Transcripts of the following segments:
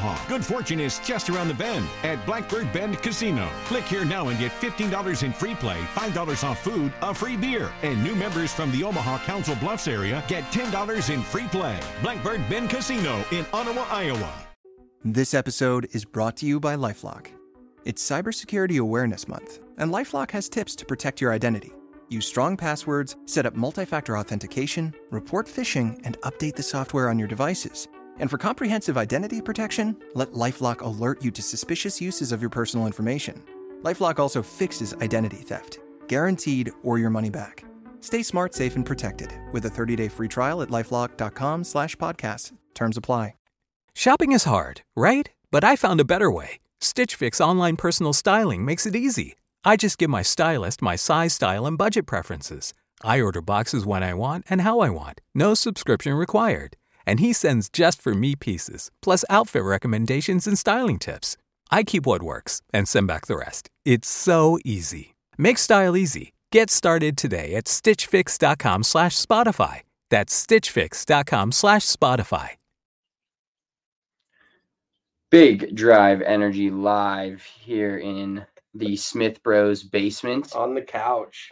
Omaha. Good fortune is just around the bend at Blackbird Bend Casino. Click here now and get $15 in free play, $5 off food, a free beer. And new members from the Omaha Council Bluffs area get $10 in free play. Blackbird Bend Casino in Ottawa, Iowa. This episode is brought to you by LifeLock. It's Cybersecurity Awareness Month, and LifeLock has tips to protect your identity. Use strong passwords, set up multi-factor authentication, report phishing, and update the software on your devices. And for comprehensive identity protection, let LifeLock alert you to suspicious uses of your personal information. LifeLock also fixes identity theft, guaranteed or your money back. Stay smart, safe, and protected with a 30-day free trial at LifeLock.com/podcast. Terms apply. Shopping is hard, right? But I found a better way. Stitch Fix online personal styling makes it easy. I just give my stylist my size, style, and budget preferences. I order boxes when I want and how I want. No subscription required. And he sends just for me pieces, plus outfit recommendations and styling tips. I keep what works and send back the rest. It's so easy. Make style easy. Get started today at stitchfix.com/Spotify. That's stitchfix.com/Spotify. Big Drive Energy live here in the Smith Bros basement. On the couch.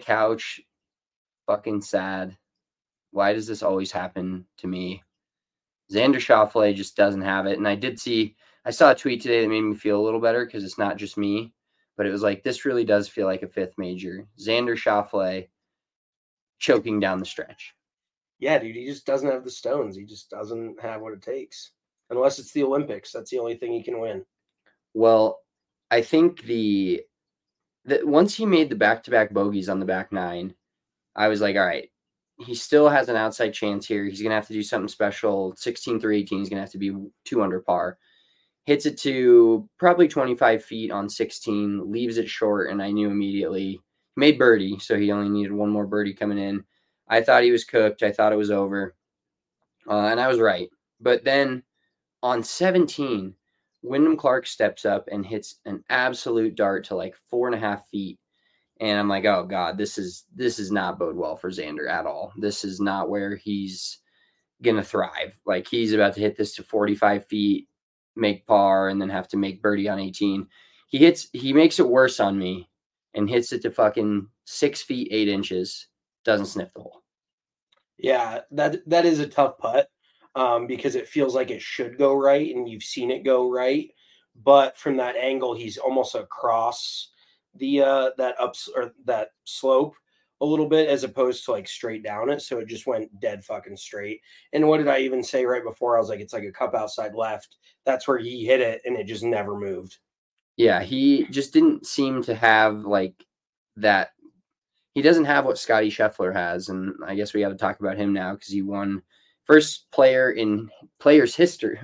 Fucking sad. Why does this always happen to me? Xander Schauffele just doesn't have it. And I saw a tweet today that made me feel a little better because it's not just me, but it was like, this really does feel like a fifth major. Xander Schauffele choking down the stretch. Yeah, dude, he just doesn't have the stones. He just doesn't have what it takes. Unless it's the Olympics. That's the only thing he can win. Well, I think that once he made the back-to-back bogeys on the back nine, I was like, all right, he still has an outside chance here. He's going to have to do something special. 16 through 18, he's going to have to be 2 under par. Hits it to probably 25 feet on 16, leaves it short, and I knew immediately. He made birdie, so he only needed one more birdie coming in. I thought he was cooked. I thought it was over, and I was right. But then on 17, Wyndham Clark steps up and hits an absolute dart to like 4.5 feet. And I'm like, oh God, this is not bode well for Xander at all. This is not where he's going to thrive. Like, he's about to hit this to 45 feet, make par, and then have to make birdie on 18. He makes it worse on me and hits it to fucking 6 feet, 8 inches. Doesn't sniff the hole. Yeah, that is a tough putt. Because it feels like it should go right, and you've seen it go right. But from that angle, he's almost across the that slope a little bit, as opposed to like straight down it. So it just went dead fucking straight. And what did I even say right before? I was like, it's like a cup outside left. That's where he hit it, and it just never moved. Yeah, he just didn't seem to have like that. He doesn't have what Scotty Scheffler has, and I guess we got to talk about him now because he won. First player in players' history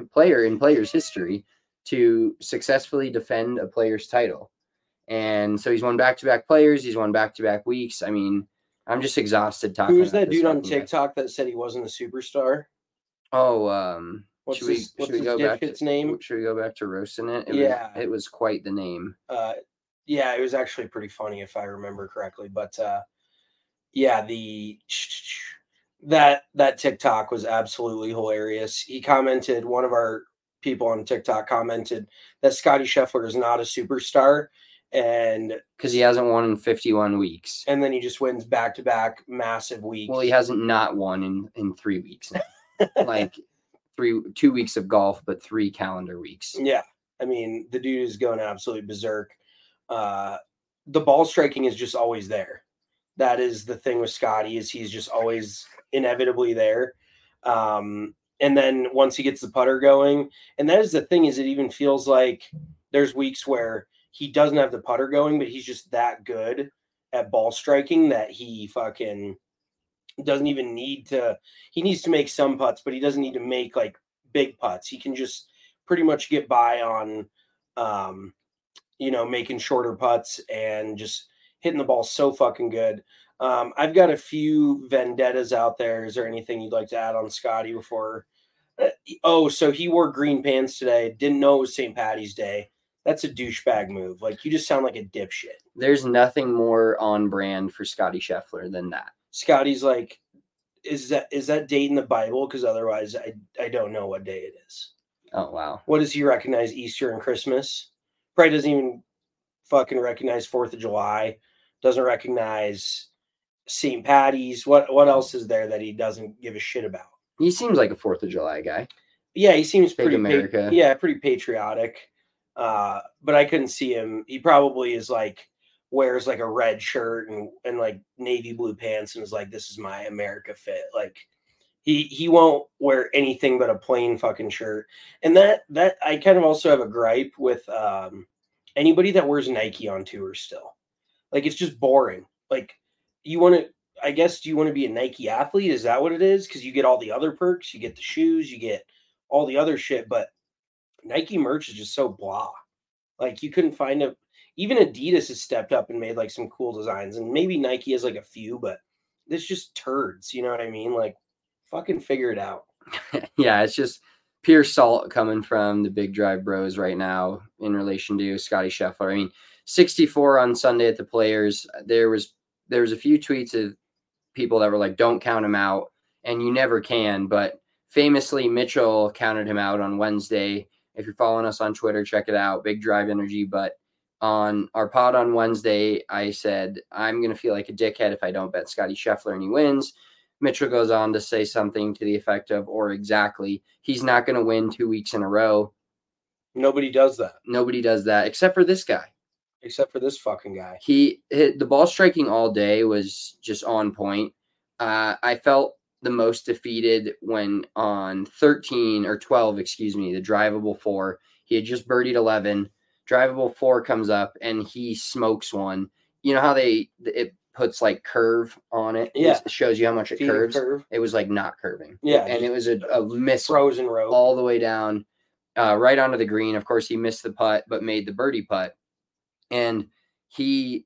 to successfully defend a player's title. And so he's won back-to-back players. He's won back-to-back weeks. I mean, I'm just exhausted talking about this. Who's that dude on TikTok that said he wasn't a superstar? Oh, what's his name? Should we go back to roasting it? It was quite the name. Yeah, it was actually pretty funny if I remember correctly. But yeah, that TikTok was absolutely hilarious. He commented, one of our people on TikTok commented that Scotty Scheffler is not a superstar, and because he hasn't won in 51 weeks, and then he just wins back-to-back massive weeks. Well, he hasn't not won in 3 weeks now. Like 2 weeks of golf, but 3 calendar weeks. Yeah, I mean, the dude is going absolutely berserk. The ball striking is just always there. That is the thing with Scotty, is he's just always inevitably there. And then once he gets the putter going, and that is the thing, is it even feels like there's weeks where he doesn't have the putter going, but he's just that good at ball striking that he fucking doesn't even need to. He needs to make some putts, but he doesn't need to make like big putts. He can just pretty much get by on, making shorter putts and just hitting the ball so fucking good. I've got a few vendettas out there. Is there anything you'd like to add on Scotty before? So he wore green pants today. Didn't know it was St. Paddy's Day. That's a douchebag move. Like, you just sound like a dipshit. There's nothing more on brand for Scotty Scheffler than that. Scotty's like, is that date in the Bible? Because otherwise, I don't know what day it is. Oh, wow. What does he recognize? Easter and Christmas? Probably doesn't even fucking recognize 4th of July. Doesn't recognize St. Patty's. What else is there that he doesn't give a shit about? He seems like a 4th of July guy. Yeah, he seems Big pretty America. pretty patriotic. But I couldn't see him. He probably is like wears like a red shirt and like navy blue pants and is like, this is my America fit. Like he won't wear anything but a plain fucking shirt. And that I kind of also have a gripe with anybody that wears Nike on tour still. Like it's just boring. Like you want to, I guess, do you want to be a Nike athlete? Is that what it is? Because you get all the other perks, you get the shoes, you get all the other shit, but Nike merch is just so blah. Like you couldn't find even Adidas has stepped up and made like some cool designs, and maybe Nike has like a few, but it's just turds. You know what I mean? Like fucking figure it out. Yeah, it's just pure salt coming from the Big Drive Bros right now in relation to Scotty Scheffler. I mean, 64 on Sunday at the Players. There was a few tweets of people that were like, don't count him out, and you never can. But famously, Mitchell counted him out on Wednesday. If you're following us on Twitter, check it out, Big Drive Energy. But on our pod on Wednesday, I said, I'm going to feel like a dickhead if I don't bet Scotty Scheffler and he wins. Mitchell goes on to say something to the effect of, or exactly, he's not going to win 2 weeks in a row. Nobody does that. Nobody does that except for this guy. Except for this fucking guy. He hit the ball striking all day was just on point. I felt the most defeated when on 13 or 12, the drivable 4, he had just birdied 11. Drivable 4 comes up and he smokes one. You know how it puts like curve on it? Yeah. It shows you how much it curves. It was like not curving. Yeah. And it was a miss frozen road all the way down, right onto the green. Of course, he missed the putt, but made the birdie putt. And he's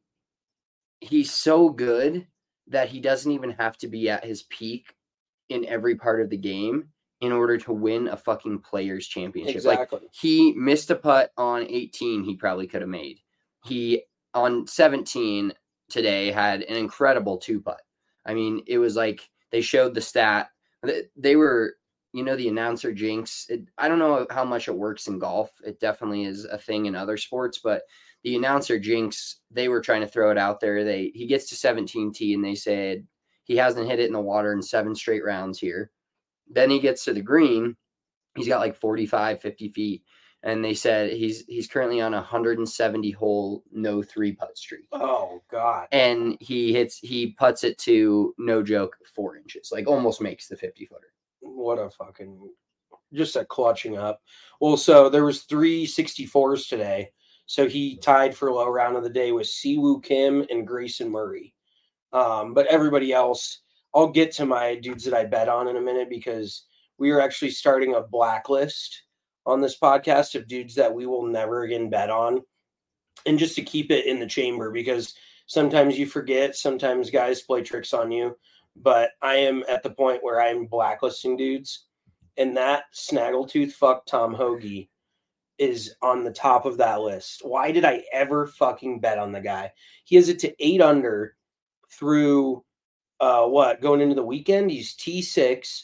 so good that he doesn't even have to be at his peak in every part of the game in order to win a fucking Players Championship. Exactly. Like, he missed a putt on 18 he probably could have made. He, on 17 today, had an incredible 2-putt. I mean, it was like they showed the stat. They were, the announcer jinx. I don't know how much it works in golf. It definitely is a thing in other sports, but the announcer jinx, they were trying to throw it out there. He gets to 17T and they said he hasn't hit it in the water in 7 straight rounds here. Then he gets to the green. He's got like 45, 50 feet. And they said he's currently on a 170 hole no 3-putt streak. Oh God. And he putts it to, no joke, 4 inches, like almost makes the 50-footer. What a fucking, just a clutching up. Well, so there was 3 64s today. So he tied for low round of the day with Siwoo Kim and Grayson Murray. But everybody else, I'll get to my dudes that I bet on in a minute, because we are actually starting a blacklist on this podcast of dudes that we will never again bet on. And just to keep it in the chamber, because sometimes you forget, sometimes guys play tricks on you. But I am at the point where I'm blacklisting dudes. And that snaggletooth fuck Tom Hoge is on the top of that list. Why did I ever fucking bet on the guy? He has it to 8 under through going into the weekend. He's T6,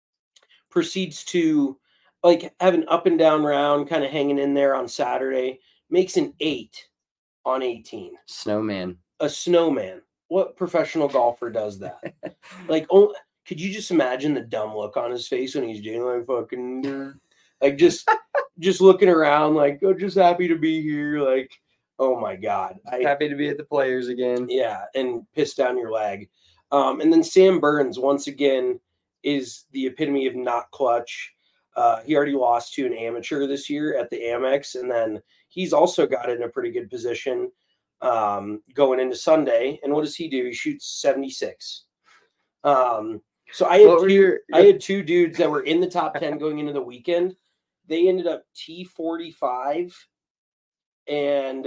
proceeds to like have an up and down round, kind of hanging in there on Saturday, makes an 8 on 18. Snowman. A snowman. What professional golfer does that? Like, could you just imagine the dumb look on his face when he's doing like fucking like just looking around like, oh, just happy to be here. Like, oh my God. Happy to be at the Players again. Yeah. And piss down your leg. And then Sam Burns, once again, is the epitome of not clutch. He already lost to an amateur this year at the Amex. And then he's also got in a pretty good position going into Sunday. And what does he do? He shoots 76. So I had 2 dudes that were in the top 10 going into the weekend. They ended up T45 and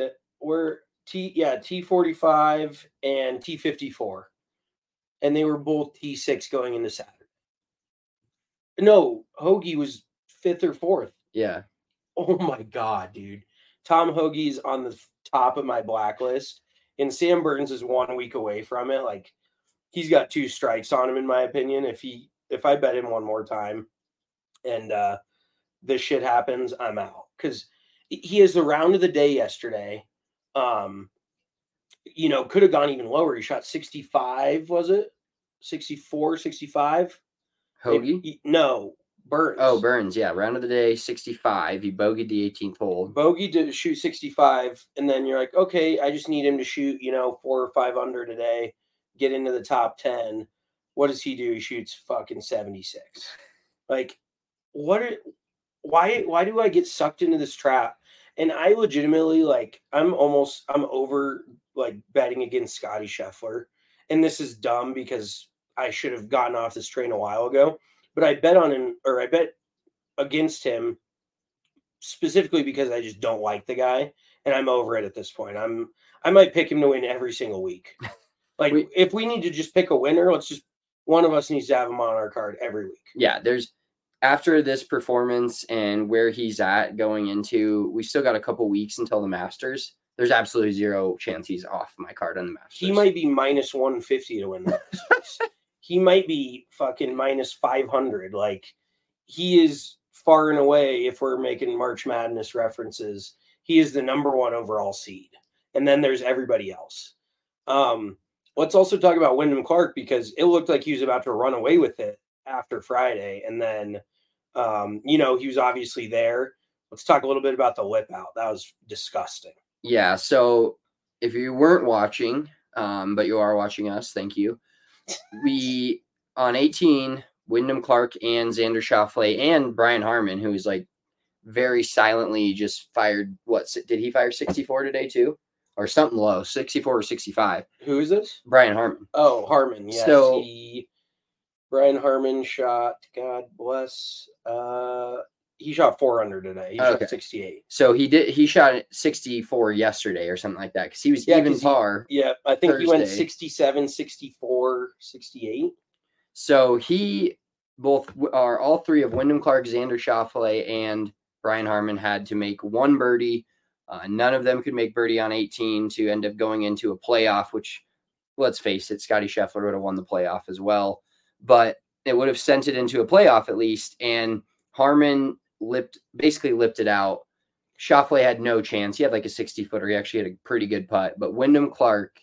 T45 and T54. And they were both T6 going into Saturday. No, Hoge was 5th or 4th. Yeah. Oh my God, dude. Tom Hoagie's on the top of my blacklist, and Sam Burns is 1 week away from it. Like, he's got 2 strikes on him, in my opinion. If I bet him one more time, and this shit happens, I'm out. Because he has the round of the day yesterday. You know, could have gone even lower. He shot 65, was it? 64, 65? Hoagie? No, Burns. Oh, Burns, yeah. Round of the day, 65. He bogeyed the 18th hole. Bogey to shoot 65, and then you're like, okay, I just need him to shoot, 4 or 5 under today, get into the top 10. What does he do? He shoots fucking 76. Like, why do I get sucked into this trap? And I legitimately, like, I'm over, like, betting against Scotty Scheffler. And this is dumb because I should have gotten off this train a while ago. But I bet on him, or I bet against him specifically because I just don't like the guy. And I'm over it at this point. I might pick him to win every single week. Like, if we need to just pick a winner, one of us needs to have him on our card every week. Yeah, after this performance and where he's at going into, we still got a couple weeks until the Masters. There's absolutely zero chance he's off my card on the Masters. He might be minus 150 to win the Masters. He might be fucking minus 500. Like, he is far and away, if we're making March Madness references, he is the number 1 overall seed. And then there's everybody else. Let's also talk about Wyndham Clark, because it looked like he was about to run away with it after Friday. And then, he was obviously there. Let's talk a little bit about the lip out. That was disgusting. Yeah. So if you weren't watching, but you are watching us, thank you. We, on 18, Wyndham Clark and Xander Schauffele and Brian Harman, who is like very silently just fired. Did he fire 64 today too? Or something low, 64 or 65. Who is this? Brian Harman. Oh, Harman. Yes. So, Brian Harman shot, God bless, he shot 4 under today. He shot 68. So he shot 64 yesterday or something like that, because he was even par. I think Thursday. He went 67, 64, 68. So all three of Wyndham Clark, Xander Schauffele, and Brian Harman had to make one birdie. None of them could make birdie on 18 to end up going into a playoff, which, let's face it, Scotty Scheffler would have won the playoff as well. But it would have sent it into a playoff at least. And Harman basically lipped it out. Schauffele had no chance. He had like a 60-footer. He actually had a pretty good putt. But Wyndham Clark,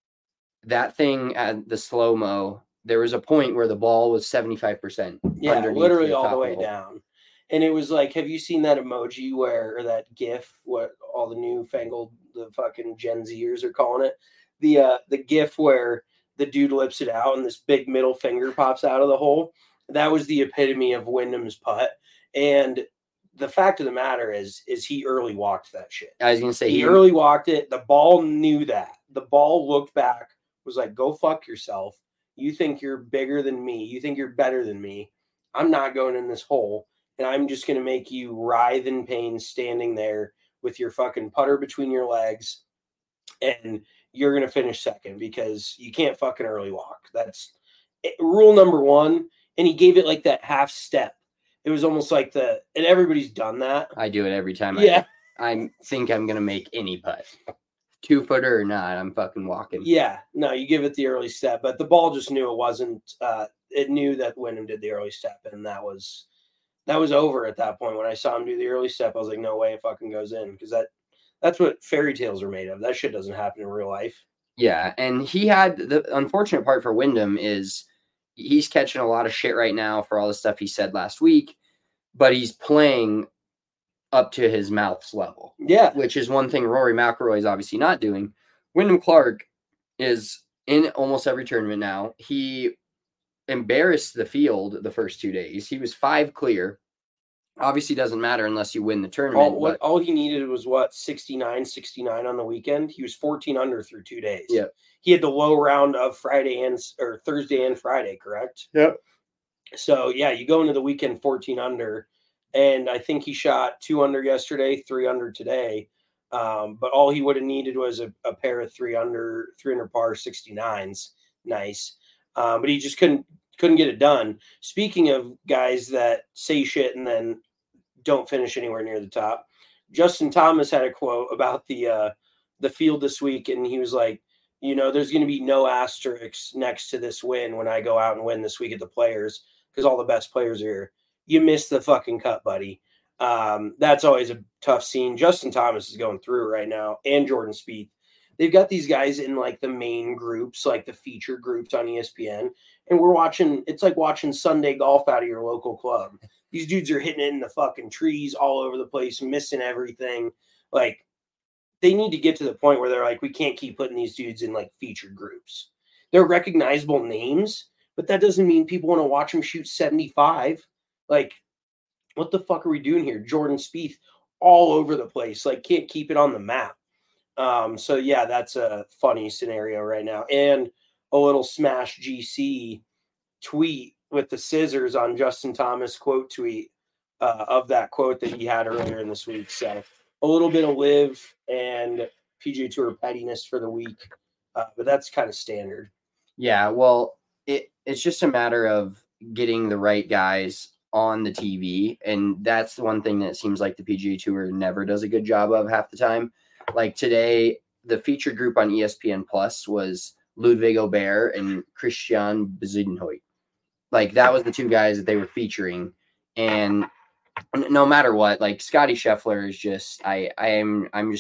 that thing at the slow-mo, there was a point where the ball was 75%. Yeah, literally all the way down. And it was like, have you seen that emoji or that GIF, what all the the fucking Gen Zers are calling it? The GIF where the dude lips it out and this big middle finger pops out of the hole. That was the epitome of Wyndham's putt. And the fact of the matter is he early walked that shit. I was going to say, he early walked it. The ball knew that. The ball looked back, was like, go fuck yourself. You think you're bigger than me. You think you're better than me. I'm not going in this hole. And I'm just going to make you writhe in pain standing there with your fucking putter between your legs. And you're going to finish second because you can't fucking early walk. That's rule number 1. And he gave it like that half step. It was almost like and everybody's done that. I do it every time. Yeah. I think I'm going to make any putt. 2-footer or not, I'm fucking walking. Yeah. No, you give it the early step. But the ball just knew it wasn't. It knew that Wyndham did the early step. And that was over at that point. When I saw him do the early step, I was like, no way it fucking goes in. Because that's what fairy tales are made of. That shit doesn't happen in real life. Yeah, and he had the unfortunate part for Wyndham is he's catching a lot of shit right now for all the stuff he said last week, but he's playing up to his mouth's level. Yeah. Which is one thing Rory McIlroy is obviously not doing. Wyndham Clark is in almost every tournament now. He embarrassed the field the first 2 days. He was 5 clear. Obviously doesn't matter unless you win the tournament. All he needed was 69 on the weekend. He was 14 under through 2 days. Yeah. He had the low round of Thursday and Friday, correct? Yep. So yeah, you go into the weekend 14 under, and I think he shot 2 under yesterday, 3 under today. But all he would have needed was a pair of 3 under par 69s. Nice. But he just couldn't get it done. Speaking of guys that say shit and then don't finish anywhere near the top, Justin Thomas had a quote about the field this week, and he was like, there's going to be no asterisks next to this win when I go out and win this week at the Players because all the best players are here. You missed the fucking cut, buddy. That's always a tough scene. Justin Thomas is going through it right now, and Jordan Spieth. They've got these guys in like the main groups, like the feature groups on ESPN, and we're watching. It's like watching Sunday golf out of your local club. These dudes are hitting it in the fucking trees all over the place, missing everything. Like, they need to get to the point where they're like, we can't keep putting these dudes in like featured groups. They're recognizable names, but that doesn't mean people want to watch them shoot 75. Like, what the fuck are we doing here? Jordan Spieth all over the place. Like, can't keep it on the map. So yeah, that's a funny scenario right now. And a little Smash GC tweet with the scissors on Justin Thomas quote tweet of that quote that he had earlier in this week. So a little bit of live and PGA Tour pettiness for the week. But that's kind of standard. Yeah, well, it's just a matter of getting the right guys on the TV. And that's the one thing that seems like the PGA Tour never does a good job of half the time. Like today, the featured group on ESPN Plus was Ludwig Aubert and Christian Bezuidenhout. Like, that was the two guys that they were featuring. And no matter what, like, Scotty Scheffler is just, I'm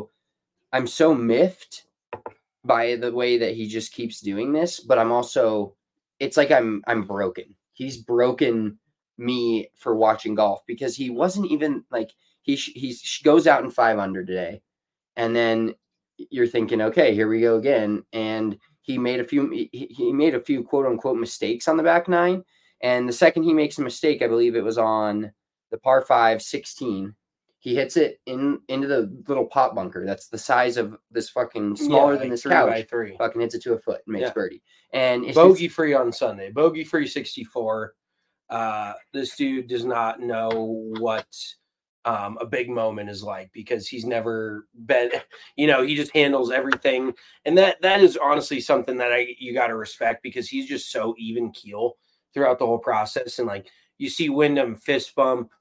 so miffed by the way that he just keeps doing this, but I'm also, it's like I'm broken. He's broken me for watching golf, because he wasn't even like, he goes out in 5 under today. And then you're thinking, okay, here we go again. And he made a few quote unquote mistakes on the back nine. And the second he makes a mistake, I believe it was on the par 5 16, he hits it into the little pot bunker. That's the size of this fucking smaller than this couch. 3x3. Fucking hits it to a foot and makes birdie. And it's bogey free on Sunday. Bogey free 64. This dude does not know what a big moment is like, because he's never been, he just handles everything. And that is honestly something that you got to respect, because he's just so even keel throughout the whole process. And like, you see Wyndham fist bump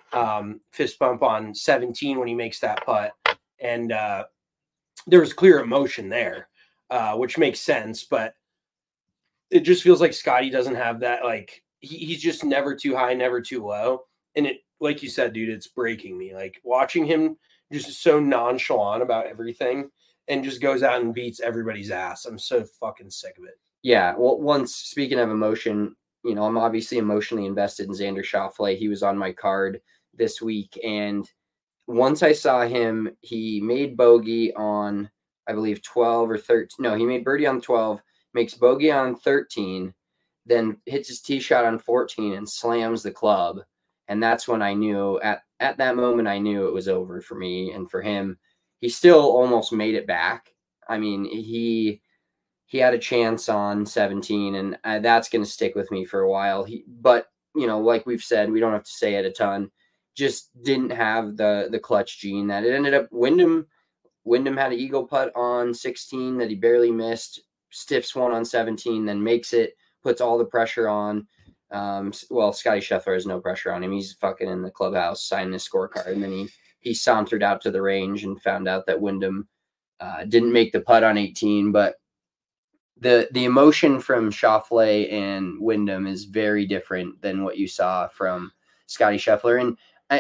on 17 when he makes that putt. And there was clear emotion there, which makes sense, but it just feels like Scotty doesn't have that. Like, he's just never too high, never too low. And it, like you said, dude, it's breaking me. Like, watching him just so nonchalant about everything and just goes out and beats everybody's ass. I'm so fucking sick of it. Yeah. Well, speaking of emotion, I'm obviously emotionally invested in Xander Schauffele. He was on my card this week. And once I saw him, he made bogey on, I believe, 12 or 13. No, he made birdie on 12, makes bogey on 13, then hits his tee shot on 14 and slams the club. And that's when I knew, at that moment, I knew it was over for me and for him. He still almost made it back. I mean, he had a chance on 17, and that's going to stick with me for a while. But like we've said, we don't have to say it a ton. Just didn't have the clutch gene that it ended up. Wyndham had an eagle putt on 16 that he barely missed, stiffs one on 17, then makes it, puts all the pressure on. Scotty Scheffler has no pressure on him. He's fucking in the clubhouse signing his scorecard. And then he sauntered out to the range and found out that Wyndham didn't make the putt on 18. But the emotion from Schauffele and Wyndham is very different than what you saw from Scotty Scheffler. And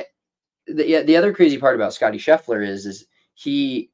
the other crazy part about Scotty Scheffler is he's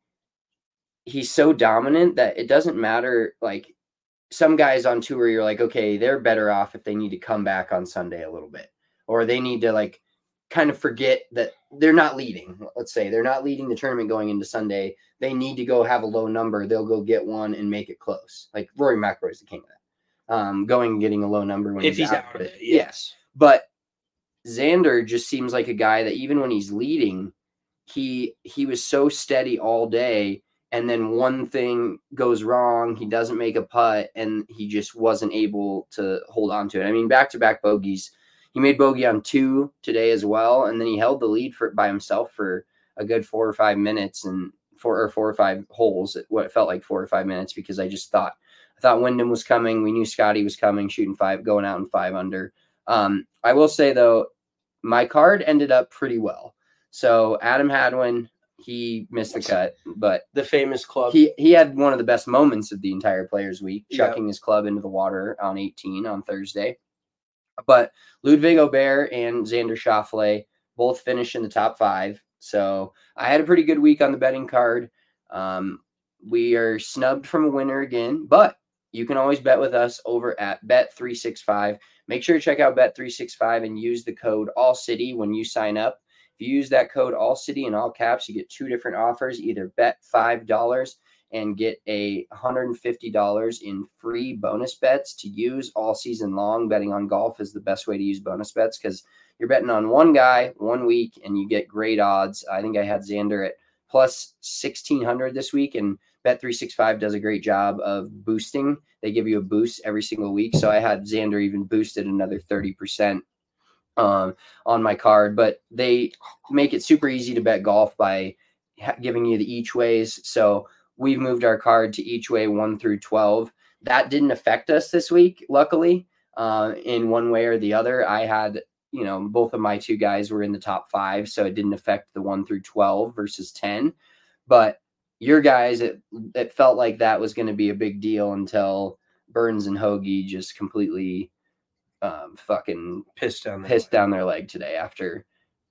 so dominant that it doesn't matter. Like, some guys on tour, you're like, okay, they're better off if they need to come back on Sunday a little bit, or they need to like kind of forget that they're not leading. Let's say they're not leading the tournament going into Sunday. They need to go have a low number. They'll go get one and make it close. Like Rory McIlroy is the king of that. Going and getting a low number when he's out of it. Yes. But Xander just seems like a guy that even when he's leading, he was so steady all day. And then one thing goes wrong, he doesn't make a putt, and he just wasn't able to hold on to it. I mean, back-to-back bogeys. He made bogey on 2 today as well, and then he held the lead by himself for a good 4 or 5 minutes, and 4 or 5 holes, what it felt like 4 or 5 minutes, because I thought Wyndham was coming. We knew Scotty was coming, shooting 5, going out in 5 under. I will say, though, my card ended up pretty well. So Adam Hadwin, he missed the cut, but the famous club. He had one of the best moments of the entire Players Week, chucking his club into the water on 18 on Thursday. But Ludwig Aubert and Xander Schauffele both finished in the top 5. So I had a pretty good week on the betting card. We are snubbed from a winner again, but you can always bet with us over at Bet365. Make sure to check out Bet365 and use the code AllCity when you sign up. If you use that code AllCity in all caps, you get 2 different offers. Either bet $5 and get $150 in free bonus bets to use all season long. Betting on golf is the best way to use bonus bets because you're betting on one guy 1 week and you get great odds. I think I had Xander at plus 1,600 this week, and Bet365 does a great job of boosting. They give you a boost every single week. So I had Xander even boosted another 30% on my card, but they make it super easy to bet golf by giving you the each ways. So we've moved our card to each way 1 through 12. That didn't affect us this week, luckily, in one way or the other. I had, both of my 2 guys were in the top 5, so it didn't affect the 1 through 12 versus 10. But your guys, it felt like that was going to be a big deal until Burns and Hoagie just completely fucking pissed down their leg today. After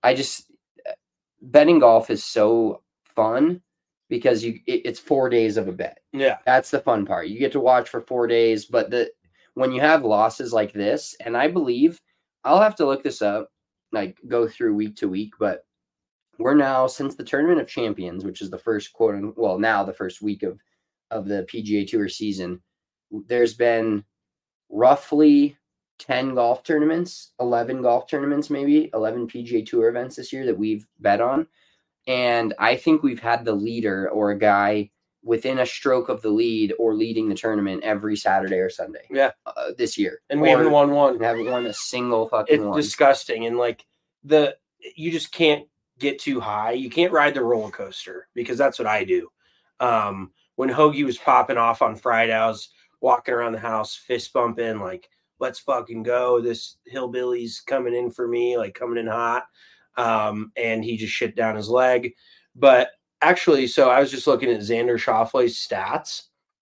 betting golf is so fun because it's 4 days of a bet. Yeah, that's the fun part. You get to watch for 4 days, but when you have losses like this, and I believe I'll have to look this up, like go through week to week, but we're now, since the Tournament of Champions, which is the first the first week of the PGA Tour season, there's been roughly 10 golf tournaments, 11 golf tournaments, maybe 11 PGA Tour events this year that we've bet on. And I think we've had the leader or a guy within a stroke of the lead or leading the tournament every Saturday or Sunday. Yeah. This year. And we haven't won one. We haven't won a single fucking one. It's disgusting. And you just can't get too high. You can't ride the roller coaster because that's what I do. When Hoagie was popping off on Friday, I was walking around the house, fist bumping, like, let's fucking go. This hillbilly's coming in for me, like coming in hot. And he just shit down his leg. But actually, so I was just looking at Xander Schauffele's stats.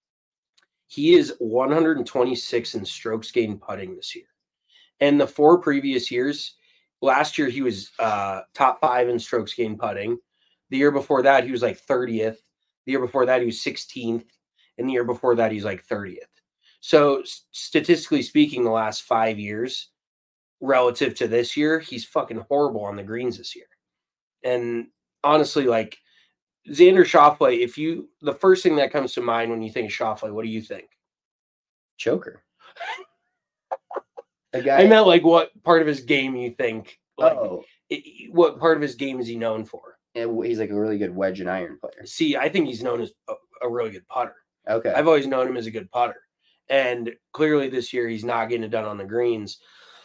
He is 126 in strokes gained putting this year. And the 4 previous years, last year he was top 5 in strokes gained putting. The year before that, he was like 30th. The year before that, he was 16th. And the year before that, he's like 30th. So statistically speaking, the last 5 years relative to this year, he's fucking horrible on the greens this year. And honestly, like Xander Schauffele, the first thing that comes to mind when you think of Schauffele, what do you think? Choker. I meant like what part of his game you think? What part of his game is he known for? He's like a really good wedge and iron player. See, I think he's known as a really good putter. Okay. I've always known him as a good putter. And clearly this year he's not getting it done on the greens.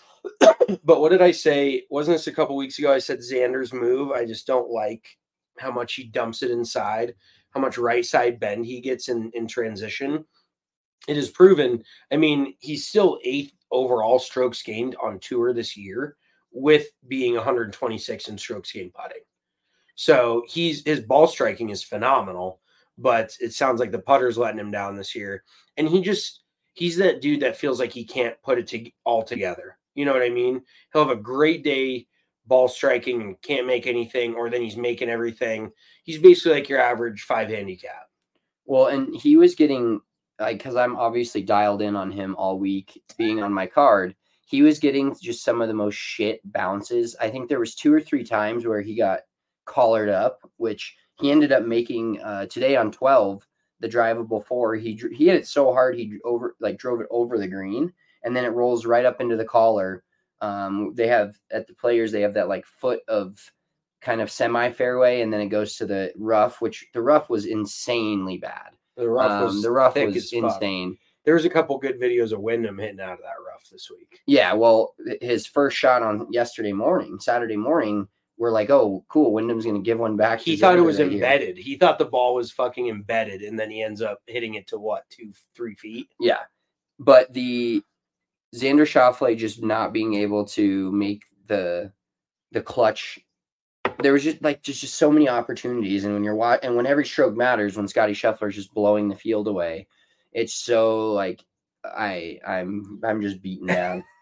But what did I say? Wasn't this a couple weeks ago? I said Xander's move. I just don't like how much he dumps it inside, how much right side bend he gets in transition. It is proven. I mean, he's still 8th overall strokes gained on tour this year with being 126 in strokes gained putting. So his ball striking is phenomenal, but it sounds like the putter's letting him down this year. And he's that dude that feels like he can't put it all together. You know what I mean? He'll have a great day ball striking and can't make anything, or then he's making everything. He's basically like your average 5 handicap. Well, and he was getting, because I'm obviously dialed in on him all week being on my card, he was getting just some of the most shit bounces. I think there was 2 or 3 times where he got collared up, which he ended up making today on 12, the drivable 4. He hit it so hard he drove it over the green, and then it rolls right up into the collar. They have at the Players, they have that like foot of kind of semi fairway, and then it goes to the rough, which the rough was insanely bad. The rough was insane. There was a couple good videos of Wyndham hitting out of that rough this week. Yeah, well, his first shot on Saturday morning, we're like, oh, cool, Wyndham's going to give one back. He thought it was embedded. He thought the ball was fucking embedded, and then he ends up hitting it to 2-3 feet? Yeah, but the Xander Schauffele just not being able to make the clutch. There was just so many opportunities, and when every stroke matters, when Scotty Scheffler's just blowing the field away, it's so like I'm just beaten down.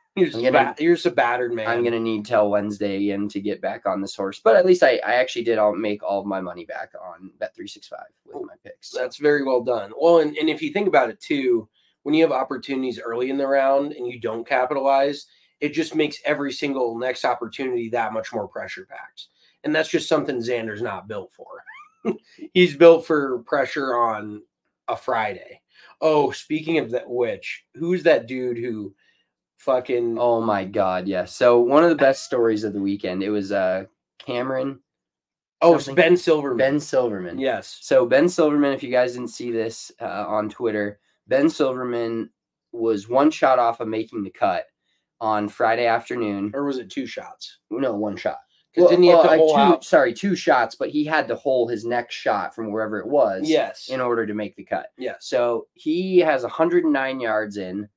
You're just a battered man. I'm gonna need till Wednesday again to get back on this horse, but at least I actually did. I'll make all of my money back on Bet365 with my picks. That's very well done. Well, and if you think about it too, when you have opportunities early in the round and you don't capitalize, it just makes every single next opportunity that much more pressure packed. And that's just something Xander's not built for. He's built for pressure on a Friday. Oh, speaking of that, who's that dude who fucking... Oh my God, yes. Yeah. So one of the best stories of the weekend, it was Cameron. Oh, it's Ben Silverman. Ben Silverman. Yes. So Ben Silverman, if you guys didn't see this on Twitter, Ben Silverman was one shot off of making the cut on Friday afternoon. Or was it two shots? No, one shot. Because didn't he have to hole out? Sorry, two shots, but he had to hole his next shot from wherever it was. Yes. In order to make the cut. Yes. So he has 109 yards in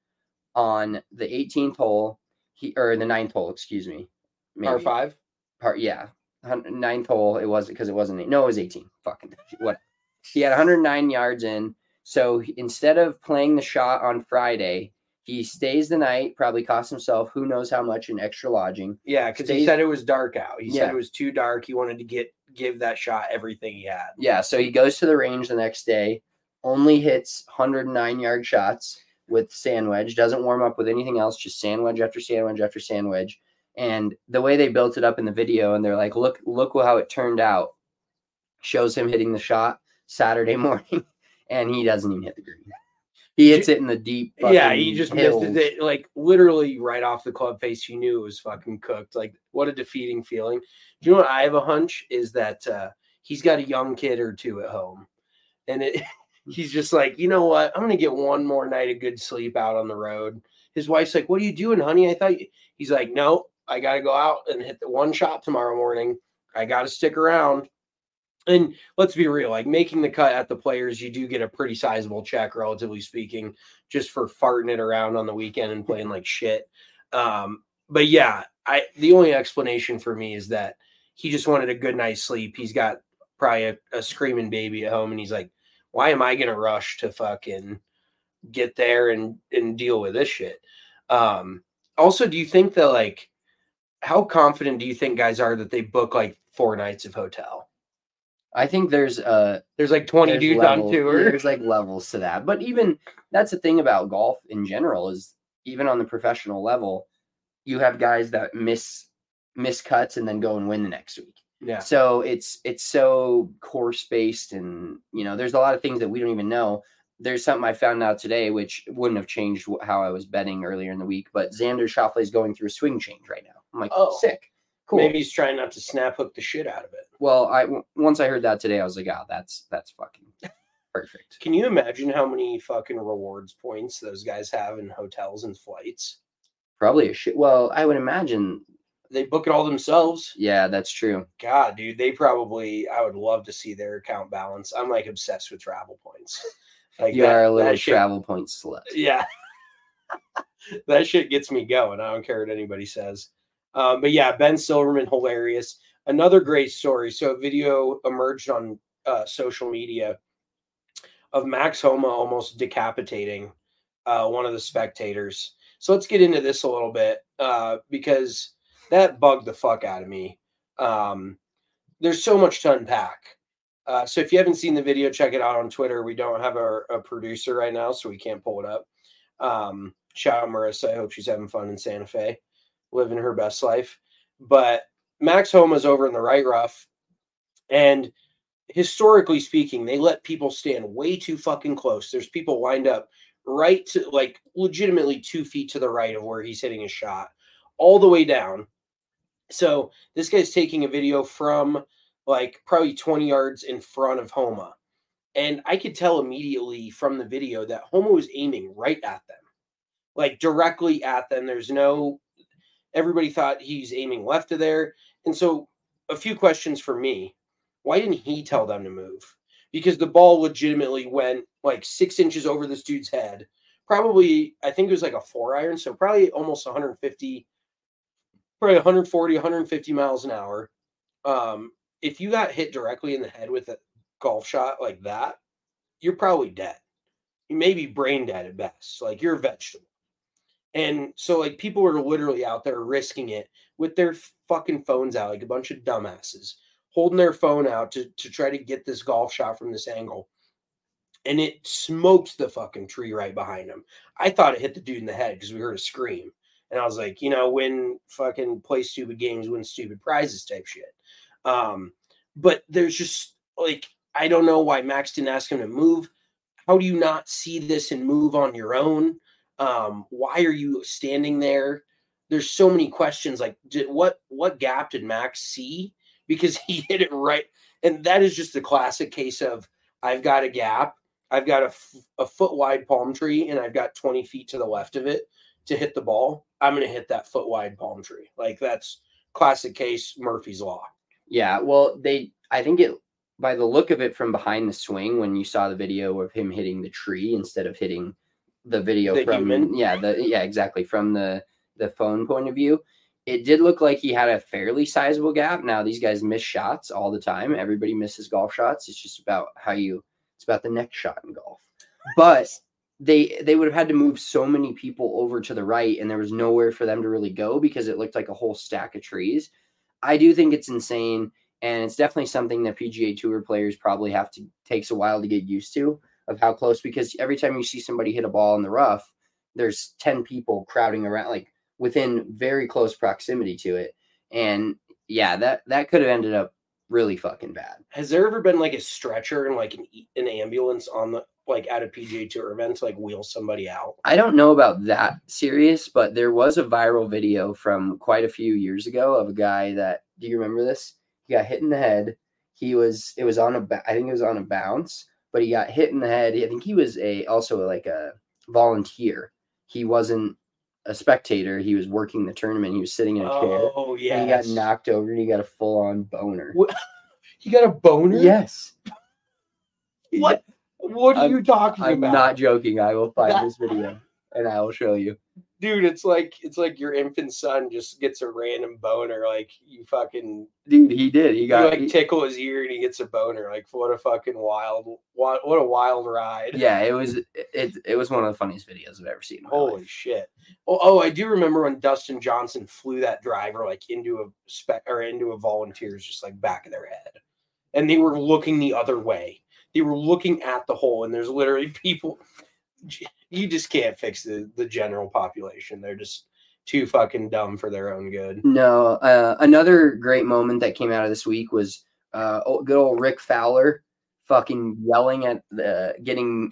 on the 18th hole, or the 9th hole, excuse me. Par 5? Yeah. 9th hole, it wasn't because it wasn't. No, it was 18. Fucking what? He had 109 yards in. So instead of playing the shot on Friday, he stays the night, probably costs himself who knows how much in extra lodging. Yeah, because he said it was dark out. He said it was too dark. He wanted to give that shot everything he had. Yeah, so he goes to the range the next day, only hits 109-yard shots with sand wedge, doesn't warm up with anything else, just sand wedge after sand wedge after sand wedge. And the way they built it up in the video, and they're like, look how it turned out, shows him hitting the shot Saturday morning, and he doesn't even hit the green. He hits it in the deep. Yeah, he just misses it, like literally right off the club face. You knew it was fucking cooked. Like, what a defeating feeling. Do you know what I have a hunch is that he's got a young kid or two at home, and he's just like, you know what? I'm gonna get one more night of good sleep out on the road. His wife's like, "What are you doing, honey?" I thought he's like, "No, I got to go out and hit the one shot tomorrow morning. I got to stick around." And let's be real, like making the cut at the Players, you do get a pretty sizable check, relatively speaking, just for farting it around on the weekend and playing like shit. But yeah, the only explanation for me is that he just wanted a good night's sleep. He's got probably a screaming baby at home, and he's like, why am I going to rush to fucking get there and deal with this shit? Also, do you think that, like, how confident do you think guys are that they book like 4 nights of hotel? I think there's like 20 dudes on tour. There's like levels to that. But even that's the thing about golf in general is even on the professional level, you have guys that miss cuts and then go and win the next week. Yeah. So it's so course based, and there's a lot of things that we don't even know. There's something I found out today, which wouldn't have changed how I was betting earlier in the week, but Xander Schauffele is going through a swing change right now. I'm like, oh, sick. Cool. Maybe he's trying not to snap hook the shit out of it. Well, once I heard that today, I was like, oh, that's fucking perfect. Can you imagine how many fucking rewards points those guys have in hotels and flights? Probably a shit. Well, I would imagine they book it all themselves. Yeah, that's true. God, dude, I would love to see their account balance. I'm like obsessed with travel points. Like you are a little travel point slut. Yeah. That shit gets me going. I don't care what anybody says. But yeah, Ben Silverman, hilarious. Another great story. So a video emerged on social media of Max Homa almost decapitating one of the spectators. So let's get into this a little bit because that bugged the fuck out of me. There's so much to unpack. So if you haven't seen the video, check it out on Twitter. We don't have a producer right now, so we can't pull it up. Shout out Marissa. I hope she's having fun in Santa Fe, living her best life. But Max Homa's over in the right rough. And historically speaking, they let people stand way too fucking close. There's people lined up right to, like, legitimately 2 feet to the right of where he's hitting his shot, all the way down. So this guy's taking a video from like probably 20 yards in front of Homa. And I could tell immediately from the video that Homa was aiming right at them, like directly at them. Everybody thought he's aiming left of there. And so a few questions for me. Why didn't he tell them to move? Because the ball legitimately went like 6 inches over this dude's head. Probably, I think it was like a 4-iron. So probably almost 140, 150 miles an hour. If you got hit directly in the head with a golf shot like that, you're probably dead. You may be brain dead at best. Like, you're a vegetable. And so like people are literally out there risking it with their fucking phones out, like a bunch of dumbasses holding their phone out to try to get this golf shot from this angle. And it smokes the fucking tree right behind him. I thought it hit the dude in the head because we heard a scream. And I was like, win fucking play stupid games, win stupid prizes type shit. But there's just like, I don't know why Max didn't ask him to move. How do you not see this and move on your own? Why are you standing there? There's so many questions. Like, what gap did Max see? Because he hit it right. And that is just the classic case of, I've got a gap. I've got a foot wide palm tree, and I've got 20 feet to the left of it to hit the ball. I'm going to hit that foot wide palm tree. Like, that's classic case Murphy's Law. Yeah. Well, I think by the look of it from behind the swing, when you saw the video of him hitting the tree instead of hitting the video from human. Exactly. From the phone point of view, it did look like he had a fairly sizable gap. Now, these guys miss shots all the time. Everybody misses golf shots. It's just about it's about the next shot in golf. But they would have had to move so many people over to the right, and there was nowhere for them to really go because it looked like a whole stack of trees. I do think it's insane, and it's definitely something that PGA Tour players probably takes a while to get used to, of how close, because every time you see somebody hit a ball in the rough, there's 10 people crowding around, like within very close proximity to it. And yeah, that could have ended up really fucking bad. Has there ever been like a stretcher and like an ambulance on the, like at a PGA Tour event to like wheel somebody out? I don't know about that serious, but there was a viral video from quite a few years ago of a guy that, do you remember this? He got hit in the head. It was on a bounce, but he got hit in the head. I think he was also like a volunteer. He wasn't a spectator. He was working the tournament. He was sitting in a chair. Oh, yeah. And he got knocked over and he got a full-on boner. What? He got a boner? Yes. What? What are you talking about? I'm not joking. I will find this video and I will show you. Dude, it's like your infant son just gets a random boner. Like, you fucking... Dude, he did. He tickle his ear and he gets a boner. Like, what a fucking what a wild ride. Yeah, it was one of the funniest videos I've ever seen. Holy shit. Oh, I do remember when Dustin Johnson flew that driver like into a volunteer's just like back of their head. And they were looking the other way. They were looking at the hole, and there's literally people. You just can't fix the general population. They're just too fucking dumb for their own good. No, another great moment that came out of this week was good old Rick Fowler fucking yelling at getting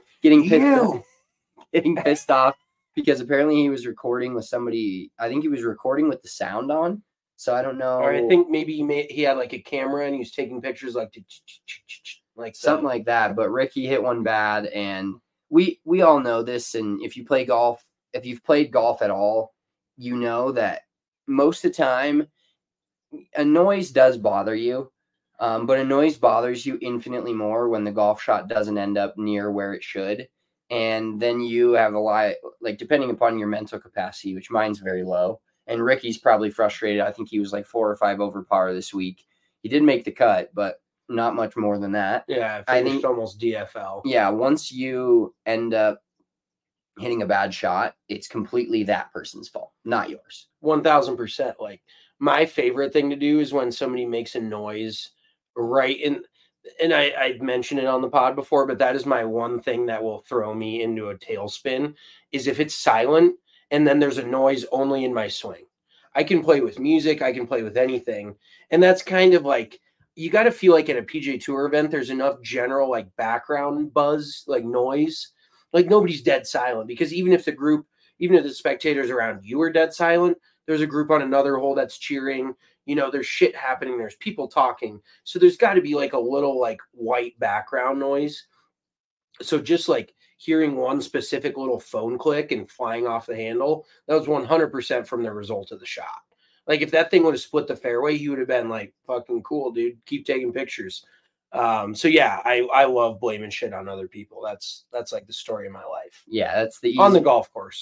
pissed off because apparently he was recording with somebody. I think he was recording with the sound on. So I don't know. Or I think maybe he had like a camera and he was taking pictures like something like that. But Ricky hit one bad, and we all know this. And if you've played golf at all, you know that most of the time a noise does bother you. But a noise bothers you infinitely more when the golf shot doesn't end up near where it should. And then you have a lot, like, depending upon your mental capacity, which mine's very low. And Ricky's probably frustrated. I think he was like 4 or 5 over par this week. He did make the cut, but not much more than that. Yeah, I think almost DFL. Yeah, once you end up hitting a bad shot, it's completely that person's fault, not yours. 1000%. Like, my favorite thing to do is when somebody makes a noise right in. And I've mentioned it on the pod before, but that is my one thing that will throw me into a tailspin is if it's silent and then there's a noise only in my swing. I can play with music. I can play with anything. And that's kind of like, you got to feel like at a PGA Tour event, there's enough general like background buzz, like noise, like nobody's dead silent, because even if the spectators around you are dead silent, there's a group on another hole that's cheering. There's shit happening. There's people talking. So there's got to be like a little like white background noise. So just like hearing one specific little phone click and flying off the handle, that was 100% from the result of the shot. Like if that thing would have split the fairway, he would have been like, fucking cool, dude. Keep taking pictures. So yeah, I love blaming shit on other people. That's like the story of my life. Yeah, that's the easy. On the golf course.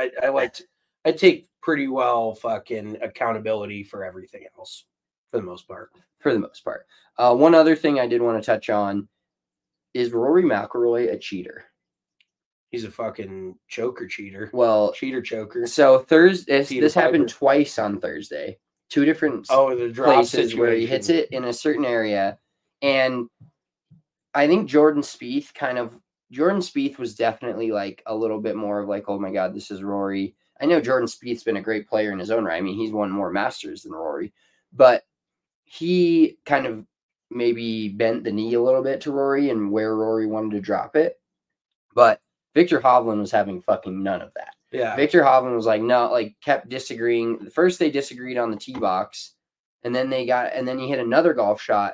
I take pretty well fucking accountability for everything else for the most part. One other thing I did want to touch on is Rory McIlroy a cheater? He's a fucking choker cheater. Well, Cheater choker. So Thursday, Peter this happened Piper. twice on Thursday. 2 different The drop places where he situation. hits it in a certain area. And I think Jordan Spieth was definitely like a little bit more of like, oh my God, this is Rory. I know Jordan Spieth's been a great player in his own right. I mean, he's won more Masters than Rory, but he kind of maybe bent the knee a little bit to Rory and where Rory wanted to drop it. But Victor Hovland was having fucking none of that. Yeah. Victor Hovland was like, no, like kept disagreeing. First they disagreed on the tee box, and then he hit another golf shot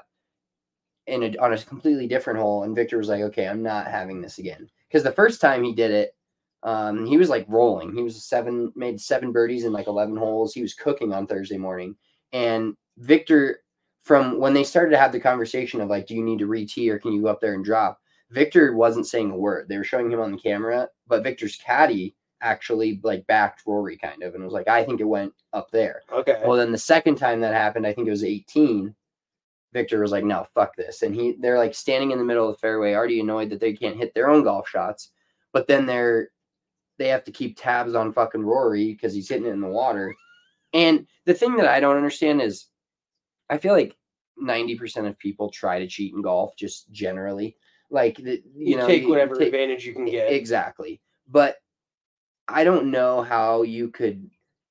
on a completely different hole, and Victor was like, okay, I'm not having this again. Because the first time he did it, he was like rolling. He was made 7 birdies in like 11 holes. He was cooking on Thursday morning. And Victor, from when they started to have the conversation of like, do you need to re-tee or can you go up there and drop? Victor wasn't saying a word. They were showing him on the camera, but Victor's caddy actually like backed Rory kind of and was like, I think it went up there. Okay. Well, then the second time that happened, I think it was 18. Victor was like, no, fuck this. And they're like standing in the middle of the fairway, already annoyed that they can't hit their own golf shots. But then they have to keep tabs on fucking Rory because he's hitting it in the water. And the thing that I don't understand is I feel like 90% of people try to cheat in golf just generally. Like, you take whatever advantage you can get. Exactly. But I don't know how you could,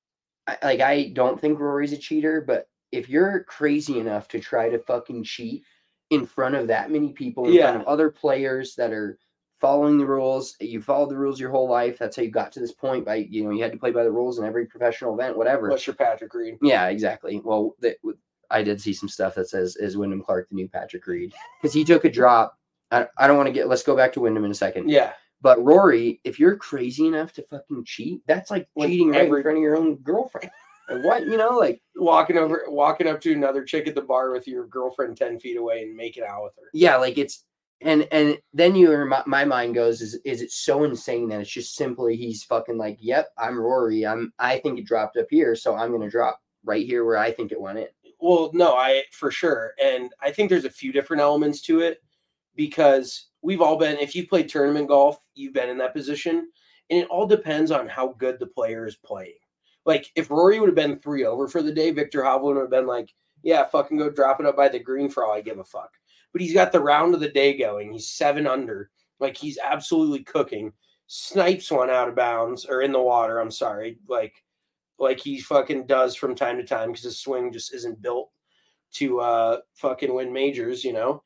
I don't think Rory's a cheater, but if you're crazy enough to try to fucking cheat in front of that many people, in front of other players that are following the rules, you followed the rules your whole life. That's how you got to this point. You had to play by the rules in every professional event, whatever. Unless you're Patrick Reed. Yeah, exactly. Well, I did see some stuff that says, is Wyndham Clark the new Patrick Reed? Because he took a drop. I don't want to let's go back to Wyndham in a second. Yeah. But Rory, if you're crazy enough to fucking cheat, that's like cheating right in front of your own girlfriend. Like what, like walking up to another chick at the bar with your girlfriend 10 feet away and making out with her. Yeah, like it's and then my mind goes, is it so insane that it's just simply he's fucking like, yep, I'm Rory. I think it dropped up here, so I'm gonna drop right here where I think it went in. Well, no, for sure. And I think there's a few different elements to it because we've all been, if you've played tournament golf, you've been in that position. And it all depends on how good the player is playing. Like, if Rory would have been 3 over for the day, Victor Hovland would have been like, yeah, fucking go drop it up by the green for all I give a fuck. But he's got the round of the day going. He's 7 under. Like, he's absolutely cooking. Snipes one out of bounds, or in the water, I'm sorry. Like he fucking does from time to time because his swing just isn't built to fucking win majors,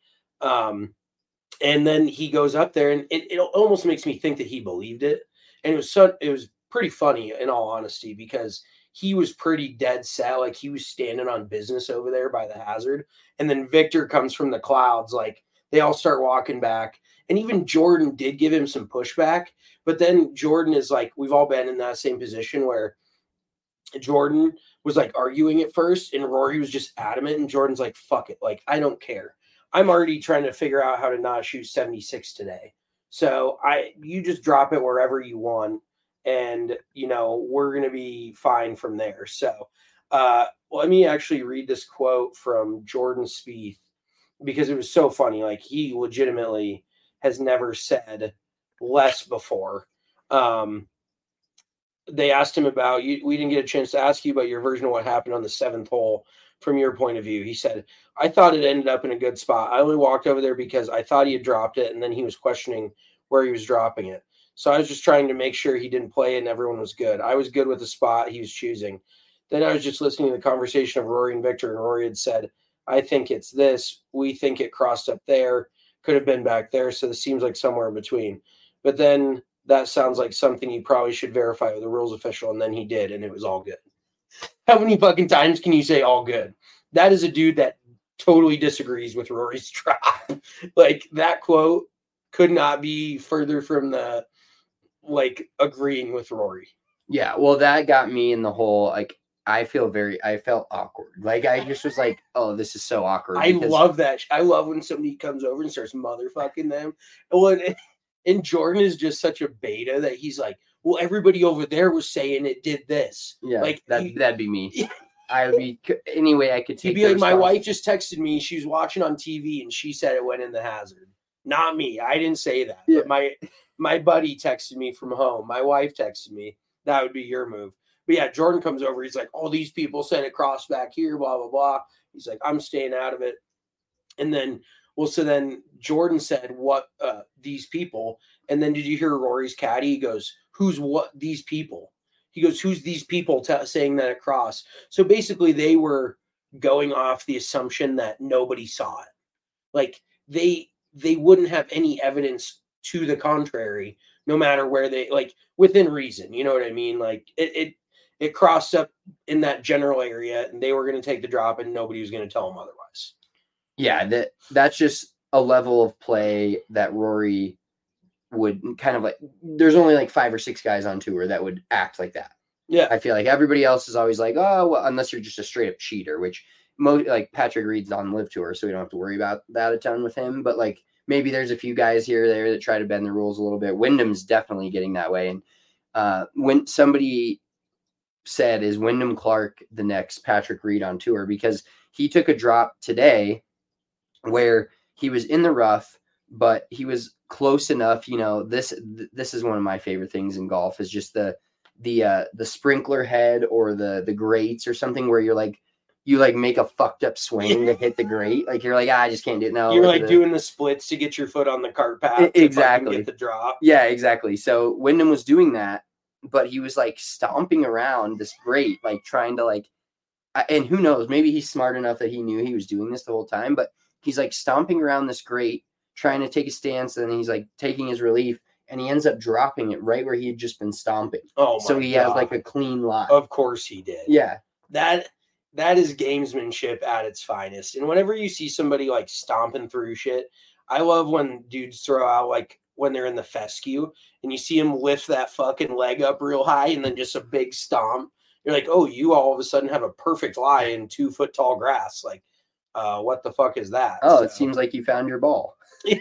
and then he goes up there, and it almost makes me think that he believed it. And it was pretty funny, in all honesty, because he was pretty dead set. Like, he was standing on business over there by the hazard. And then Victor comes from the clouds. Like, they all start walking back. And even Jordan did give him some pushback. But then Jordan is like, we've all been in that same position where Jordan was like arguing at first, and Rory was just adamant. And Jordan's like, fuck it. Like, I don't care. I'm already trying to figure out how to not shoot 76 today. So you just drop it wherever you want. And, we're going to be fine from there. So let me actually read this quote from Jordan Spieth because it was so funny. Like, he legitimately has never said less before. They asked him about, we didn't get a chance to ask you about your version of what happened on the 7th hole from your point of view. He said, I thought it ended up in a good spot. I only walked over there because I thought he had dropped it, and then he was questioning where he was dropping it. So I was just trying to make sure he didn't play it and everyone was good. I was good with the spot he was choosing. Then I was just listening to the conversation of Rory and Victor, and Rory had said, I think it's this. We think it crossed up there. Could have been back there. So this seems like somewhere in between. But then that sounds like something you probably should verify with the rules official. And then he did, and it was all good. How many fucking times can you say all good? That is a dude that totally disagrees with Rory's drop. Like, that quote could not be further from the, agreeing with Rory. Yeah, well, that got me in the whole, I felt awkward. Like, I just was like, oh, this is so awkward. I love that. I love when somebody comes over and starts motherfucking them. And Jordan is just such a beta that he's like, well, everybody over there was saying it did this. Yeah, that'd be me. I would be any way I could take. He'd be like, my wife just texted me. She was watching on TV and she said it went in the hazard. Not me. I didn't say that. Yeah. But my buddy texted me from home. My wife texted me. That would be your move. But yeah, Jordan comes over. He's like, all these people sent it cross back here, blah, blah, blah. He's like, I'm staying out of it. And then, so then Jordan said, what, these people? And then did you hear Rory's caddy? He goes, who's what these people? He goes, who's these people saying that across? So basically they were going off the assumption that nobody saw it. Like they wouldn't have any evidence to the contrary, no matter where they, like, within reason, you know what I mean? Like it crossed up in that general area and they were going to take the drop and nobody was going to tell them otherwise. Yeah, that's just a level of play that Rory would kind of like, there's only like 5 or 6 guys on tour that would act like that. Yeah. I feel like everybody else is always like, oh, well, unless you're just a straight up cheater, which like Patrick Reed's on Live Tour, so we don't have to worry about that a ton with him. But like maybe there's a few guys here or there that try to bend the rules a little bit. Wyndham's definitely getting that way. And when somebody said, is Wyndham Clark the next Patrick Reed on tour? Because he took a drop today where he was in the rough, but he was close enough. You know, this is one of my favorite things in golf is just the sprinkler head or the grates or something where you make a fucked up swing to hit the grate. Like you're like, I just can't do it. No, you're like doing the splits to get your foot on the cart path. Exactly. Get the drop. Yeah, exactly. So Wyndham was doing that, but he was like stomping around this grate, like trying to like, and who knows, maybe he's smart enough that he knew he was doing this the whole time, but he's like stomping around this grate, trying to take a stance, and then he's like taking his relief, and he ends up dropping it right where he had just been stomping. Oh, so he has like a clean lie. Of course he did. Yeah. That is gamesmanship at its finest. And whenever you see somebody like stomping through shit, I love when dudes throw out like when they're in the fescue and you see him lift that fucking leg up real high and then just a big stomp. You're like, oh, you all of a sudden have a perfect lie in 2 foot tall grass. Like, what the fuck is that? Oh, so, it seems like you found your ball.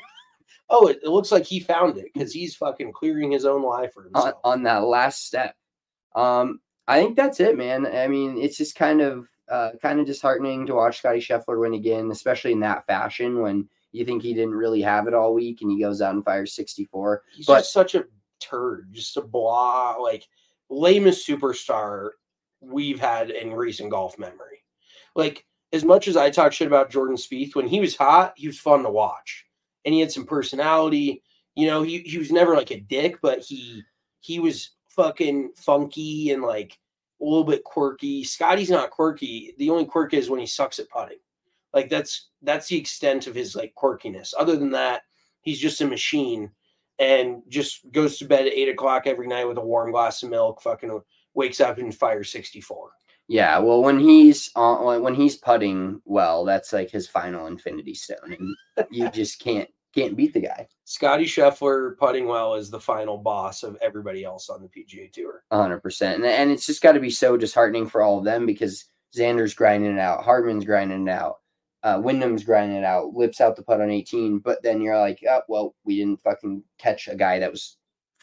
Oh, it looks like he found it because he's fucking clearing his own lie for himself. On that last step. I think that's it, man. I mean, it's just kind of disheartening to watch Scotty Scheffler win again, especially in that fashion when you think he didn't really have it all week and he goes out and fires 64. He's just such a turd, just a blah, like lamest superstar we've had in recent golf memory. Like, as much as I talk shit about Jordan Spieth, when he was hot, he was fun to watch. And he had some personality. You know, he was never like a dick, but he was fucking funky and like a little bit quirky. Scotty's not quirky. The only quirk is when he sucks at putting. Like that's the extent of his like quirkiness. Other than that, he's just a machine and just goes to bed at 8 o'clock every night with a warm glass of milk, fucking wakes up and fires 64. Yeah, well, when he's putting well, that's like his final infinity stone, and you just can't beat the guy. Scotty Scheffler putting well is the final boss of everybody else on the PGA Tour. 100%, and it's just got to be so disheartening for all of them because Xander's grinding it out, Hartman's grinding it out, Wyndham's grinding it out, lips out the putt on 18, but then you're like, oh, well, we didn't fucking catch a guy that was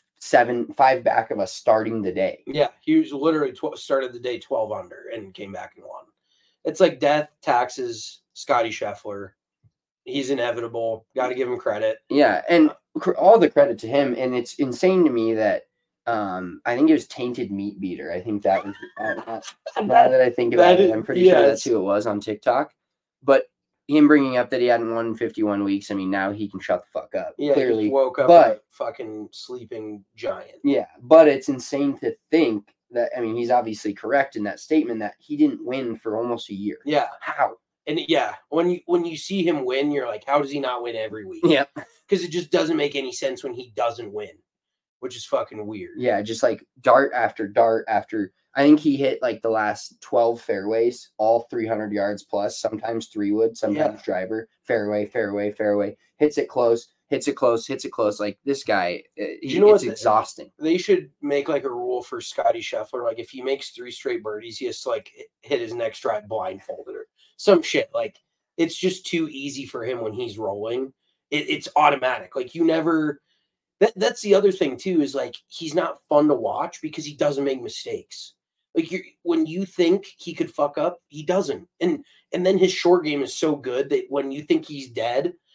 5 back of us starting the day. Yeah, he was literally started the day 12 under and came back and won. It's like death, taxes, Scotty Scheffler. He's inevitable. Got to give him credit. Yeah, and all the credit to him. And it's insane to me that I think it was Tainted Meat Beater. I think that was now that I think about it, I'm pretty sure that's who it was on TikTok. But him bringing up that he hadn't won in 51 weeks, I mean, now he can shut the fuck up. Yeah, clearly. He woke up a fucking sleeping giant. Yeah, but it's insane to think that, I mean, he's obviously correct in that statement that he didn't win for almost a year. Yeah. How? And yeah, when you see him win, you're like, how does he not win every week? Yeah. Because it just doesn't make any sense when he doesn't win, which is fucking weird. Yeah, just like dart after dart after. I think he hit like the last 12 fairways, all 300 yards plus, sometimes 3-wood, sometimes driver, fairway, fairway, fairway, hits it close, hits it close, hits it close. Like this guy, it's exhausting. They should make like a rule for Scotty Scheffler. Like if he makes 3 straight birdies, he has to like hit his next drive blindfolded or some shit. Like it's just too easy for him when he's rolling. It's automatic. Like you never. That's the other thing too is like he's not fun to watch because he doesn't make mistakes. Like when you think he could fuck up, he doesn't. And then his short game is so good that when you think he's dead,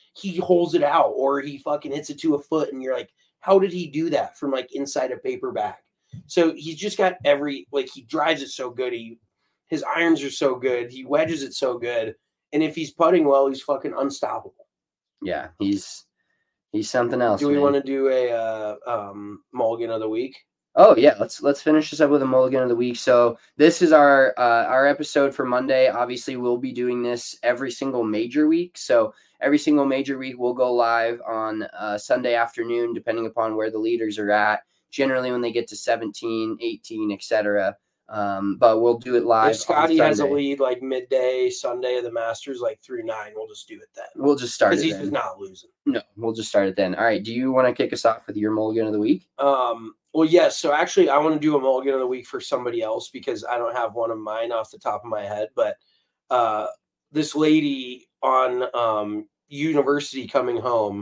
he holds it out or he fucking hits it to a foot. And you're like, how did he do that from like inside a paper bag? So he's just got he drives it so good. His irons are so good. He wedges it so good. And if he's putting well, he's fucking unstoppable. Yeah, he's something else. Do we want to do a mulligan of the week? Oh yeah, let's finish this up with a mulligan of the week. So this is our episode for Monday. Obviously, we'll be doing this every single major week. So every single major week we'll go live on Sunday afternoon, depending upon where the leaders are at. Generally, when they get to 17, 18, etc. But we'll do it live. If Scotty has a lead like midday Sunday of the Masters, like through 9, we'll just do it then. We'll just start it because then. He's not losing. No, we'll just start it then. All right. Do you want to kick us off with your mulligan of the week? Well, yes. So actually, I want to do a mulligan of the week for somebody else because I don't have one of mine off the top of my head. But this lady on University coming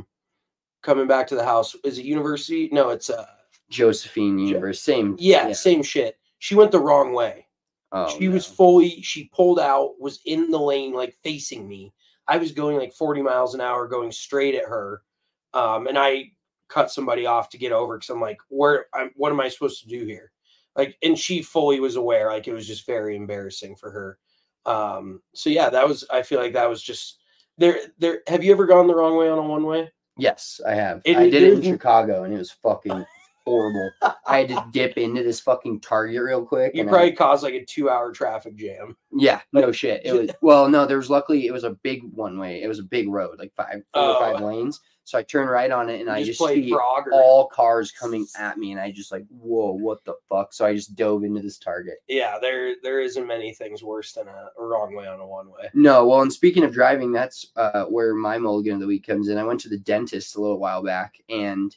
back to the house. Is it University? No, it's Josephine University. Same. Yeah, same shit. She went the wrong way. Oh, she pulled out, was in the lane, like facing me. I was going like 40 miles an hour going straight at her. And I cut somebody off to get over because I'm like, what am I supposed to do here? Like, and she fully was aware, like it was just very embarrassing for her. So yeah, I feel like that was just there. Have you ever gone the wrong way on a one-way? Yes, I have. I did it in Chicago and it was fucking horrible. I had to dip into this fucking Target real quick. You probably caused like a 2-hour traffic jam. Yeah, no shit. It was it was a big one way. It was a big road, like 4 or 5 lanes. So I turned right on it and I just see all cars coming at me and I just like, whoa, what the fuck? So I just dove into this Target. Yeah, there isn't many things worse than a wrong way on a one-way. No, well, and speaking of driving, that's where my mulligan of the week comes in. I went to the dentist a little while back and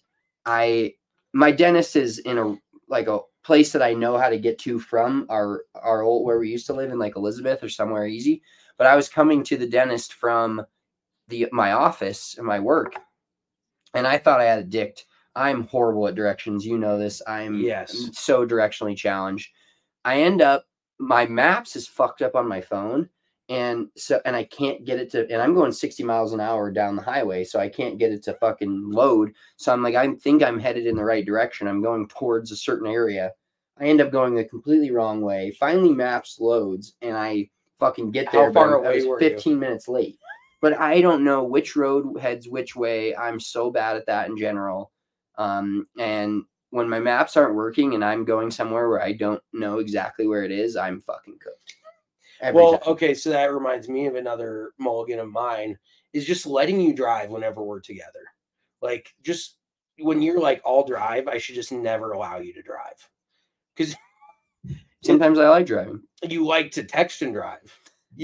my dentist is in a place that I know how to get to from our old, where we used to live in like Elizabeth or somewhere easy. But I was coming to the dentist from my office and my work. And I thought I had a dict. I'm horrible at directions. You know this. I'm so directionally challenged. I end up, my maps is fucked up on my phone. And I can't get it to, and I'm going 60 miles an hour down the highway. So I can't get it to fucking load. So I'm like, I think I'm headed in the right direction. I'm going towards a certain area. I end up going the completely wrong way. Finally maps loads and I fucking get there. How far away were 15 minutes late. But I don't know which road heads which way. I'm so bad at that in general. And when my maps aren't working and I'm going somewhere where I don't know exactly where it is, I'm fucking cooked. Okay, so that reminds me of another mulligan of mine is just letting you drive whenever we're together. Like, just when you're like, I'll drive, I should just never allow you to drive. Because sometimes I like driving. You like to text and drive.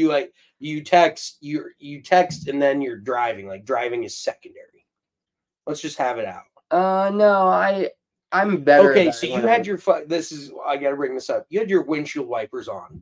You text and then you're driving. Like driving is secondary. Let's just have it out. No, I'm better. Okay, so you had your I gotta bring this up. You had your windshield wipers on.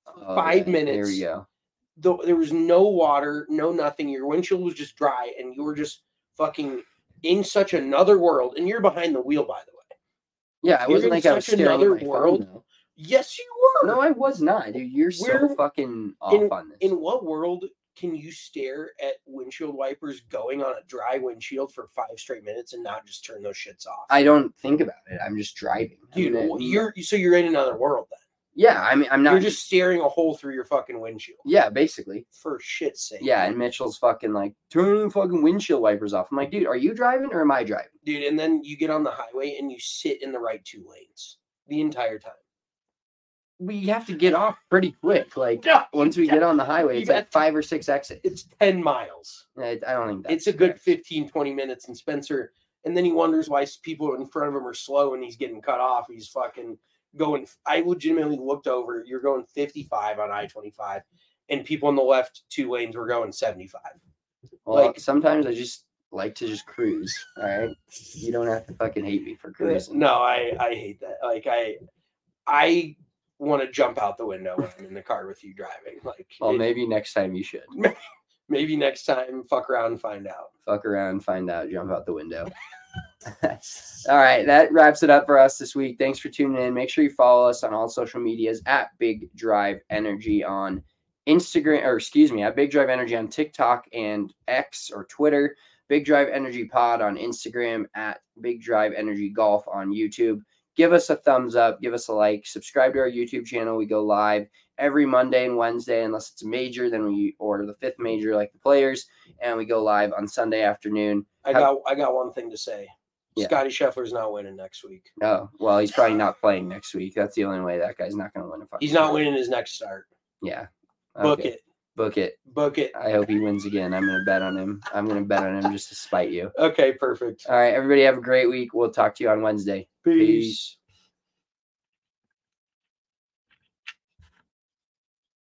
5 minutes. There we go. There was no water, no nothing. Your windshield was just dry, and you were just fucking in such another world. And you're behind the wheel, by the way. Yeah, it wasn't like I was staring at my world. Phone, yes, you were. No, I was not, dude. You're so fucking off on this. In what world can you stare at windshield wipers going on a dry windshield for 5 straight minutes and not just turn those shits off? I don't think about it. I'm just driving. Dude, you're in another world then. Yeah, I mean, I'm not. You're just staring a hole through your fucking windshield. Yeah, basically. For shit's sake. Yeah, and Mitchell's fucking like, turn the fucking windshield wipers off. I'm like, dude, are you driving or am I driving? Dude, and then you get on the highway and you sit in the right 2 lanes the entire time. We have to get off pretty quick. Like, once we get on the highway, it's like 5 or 6 exits. It's 10 miles. I don't think that's it's a good 15, 20 minutes. And Spencer, and then he wonders why people in front of him are slow and he's getting cut off. He's fucking going. I legitimately looked over. You're going 55 on I-25, and people in the left 2 lanes were going 75. Well, like, sometimes I just like to just cruise. All right, you don't have to fucking hate me for cruising. No, I hate that. Like I want to jump out the window when I'm in the car with you driving. Like, well, maybe next time you should. Maybe next time, fuck around and find out. Fuck around, find out, jump out the window. All right, that wraps it up for us this week. Thanks for tuning in. Make sure you follow us on all social medias at Big Drive Energy on Instagram, at Big Drive Energy on TikTok and X or Twitter. Big Drive Energy Pod on Instagram, at Big Drive Energy Golf on YouTube. Give us a thumbs up, give us a like, subscribe to our YouTube channel. We go live every Monday and Wednesday, unless it's a major, or the 5th major like the Players, and we go live on Sunday afternoon. I got one thing to say. Yeah. Scotty Scheffler's not winning next week. Oh, well, he's probably not playing next week. That's the only way that guy's not going to win a fight. He's not winning his next start. Yeah. Okay. Book it. I hope he wins again. I'm going to bet on him. I'm going to bet on him just to spite you. Okay, perfect. All right, everybody have a great week. We'll talk to you on Wednesday. Peace.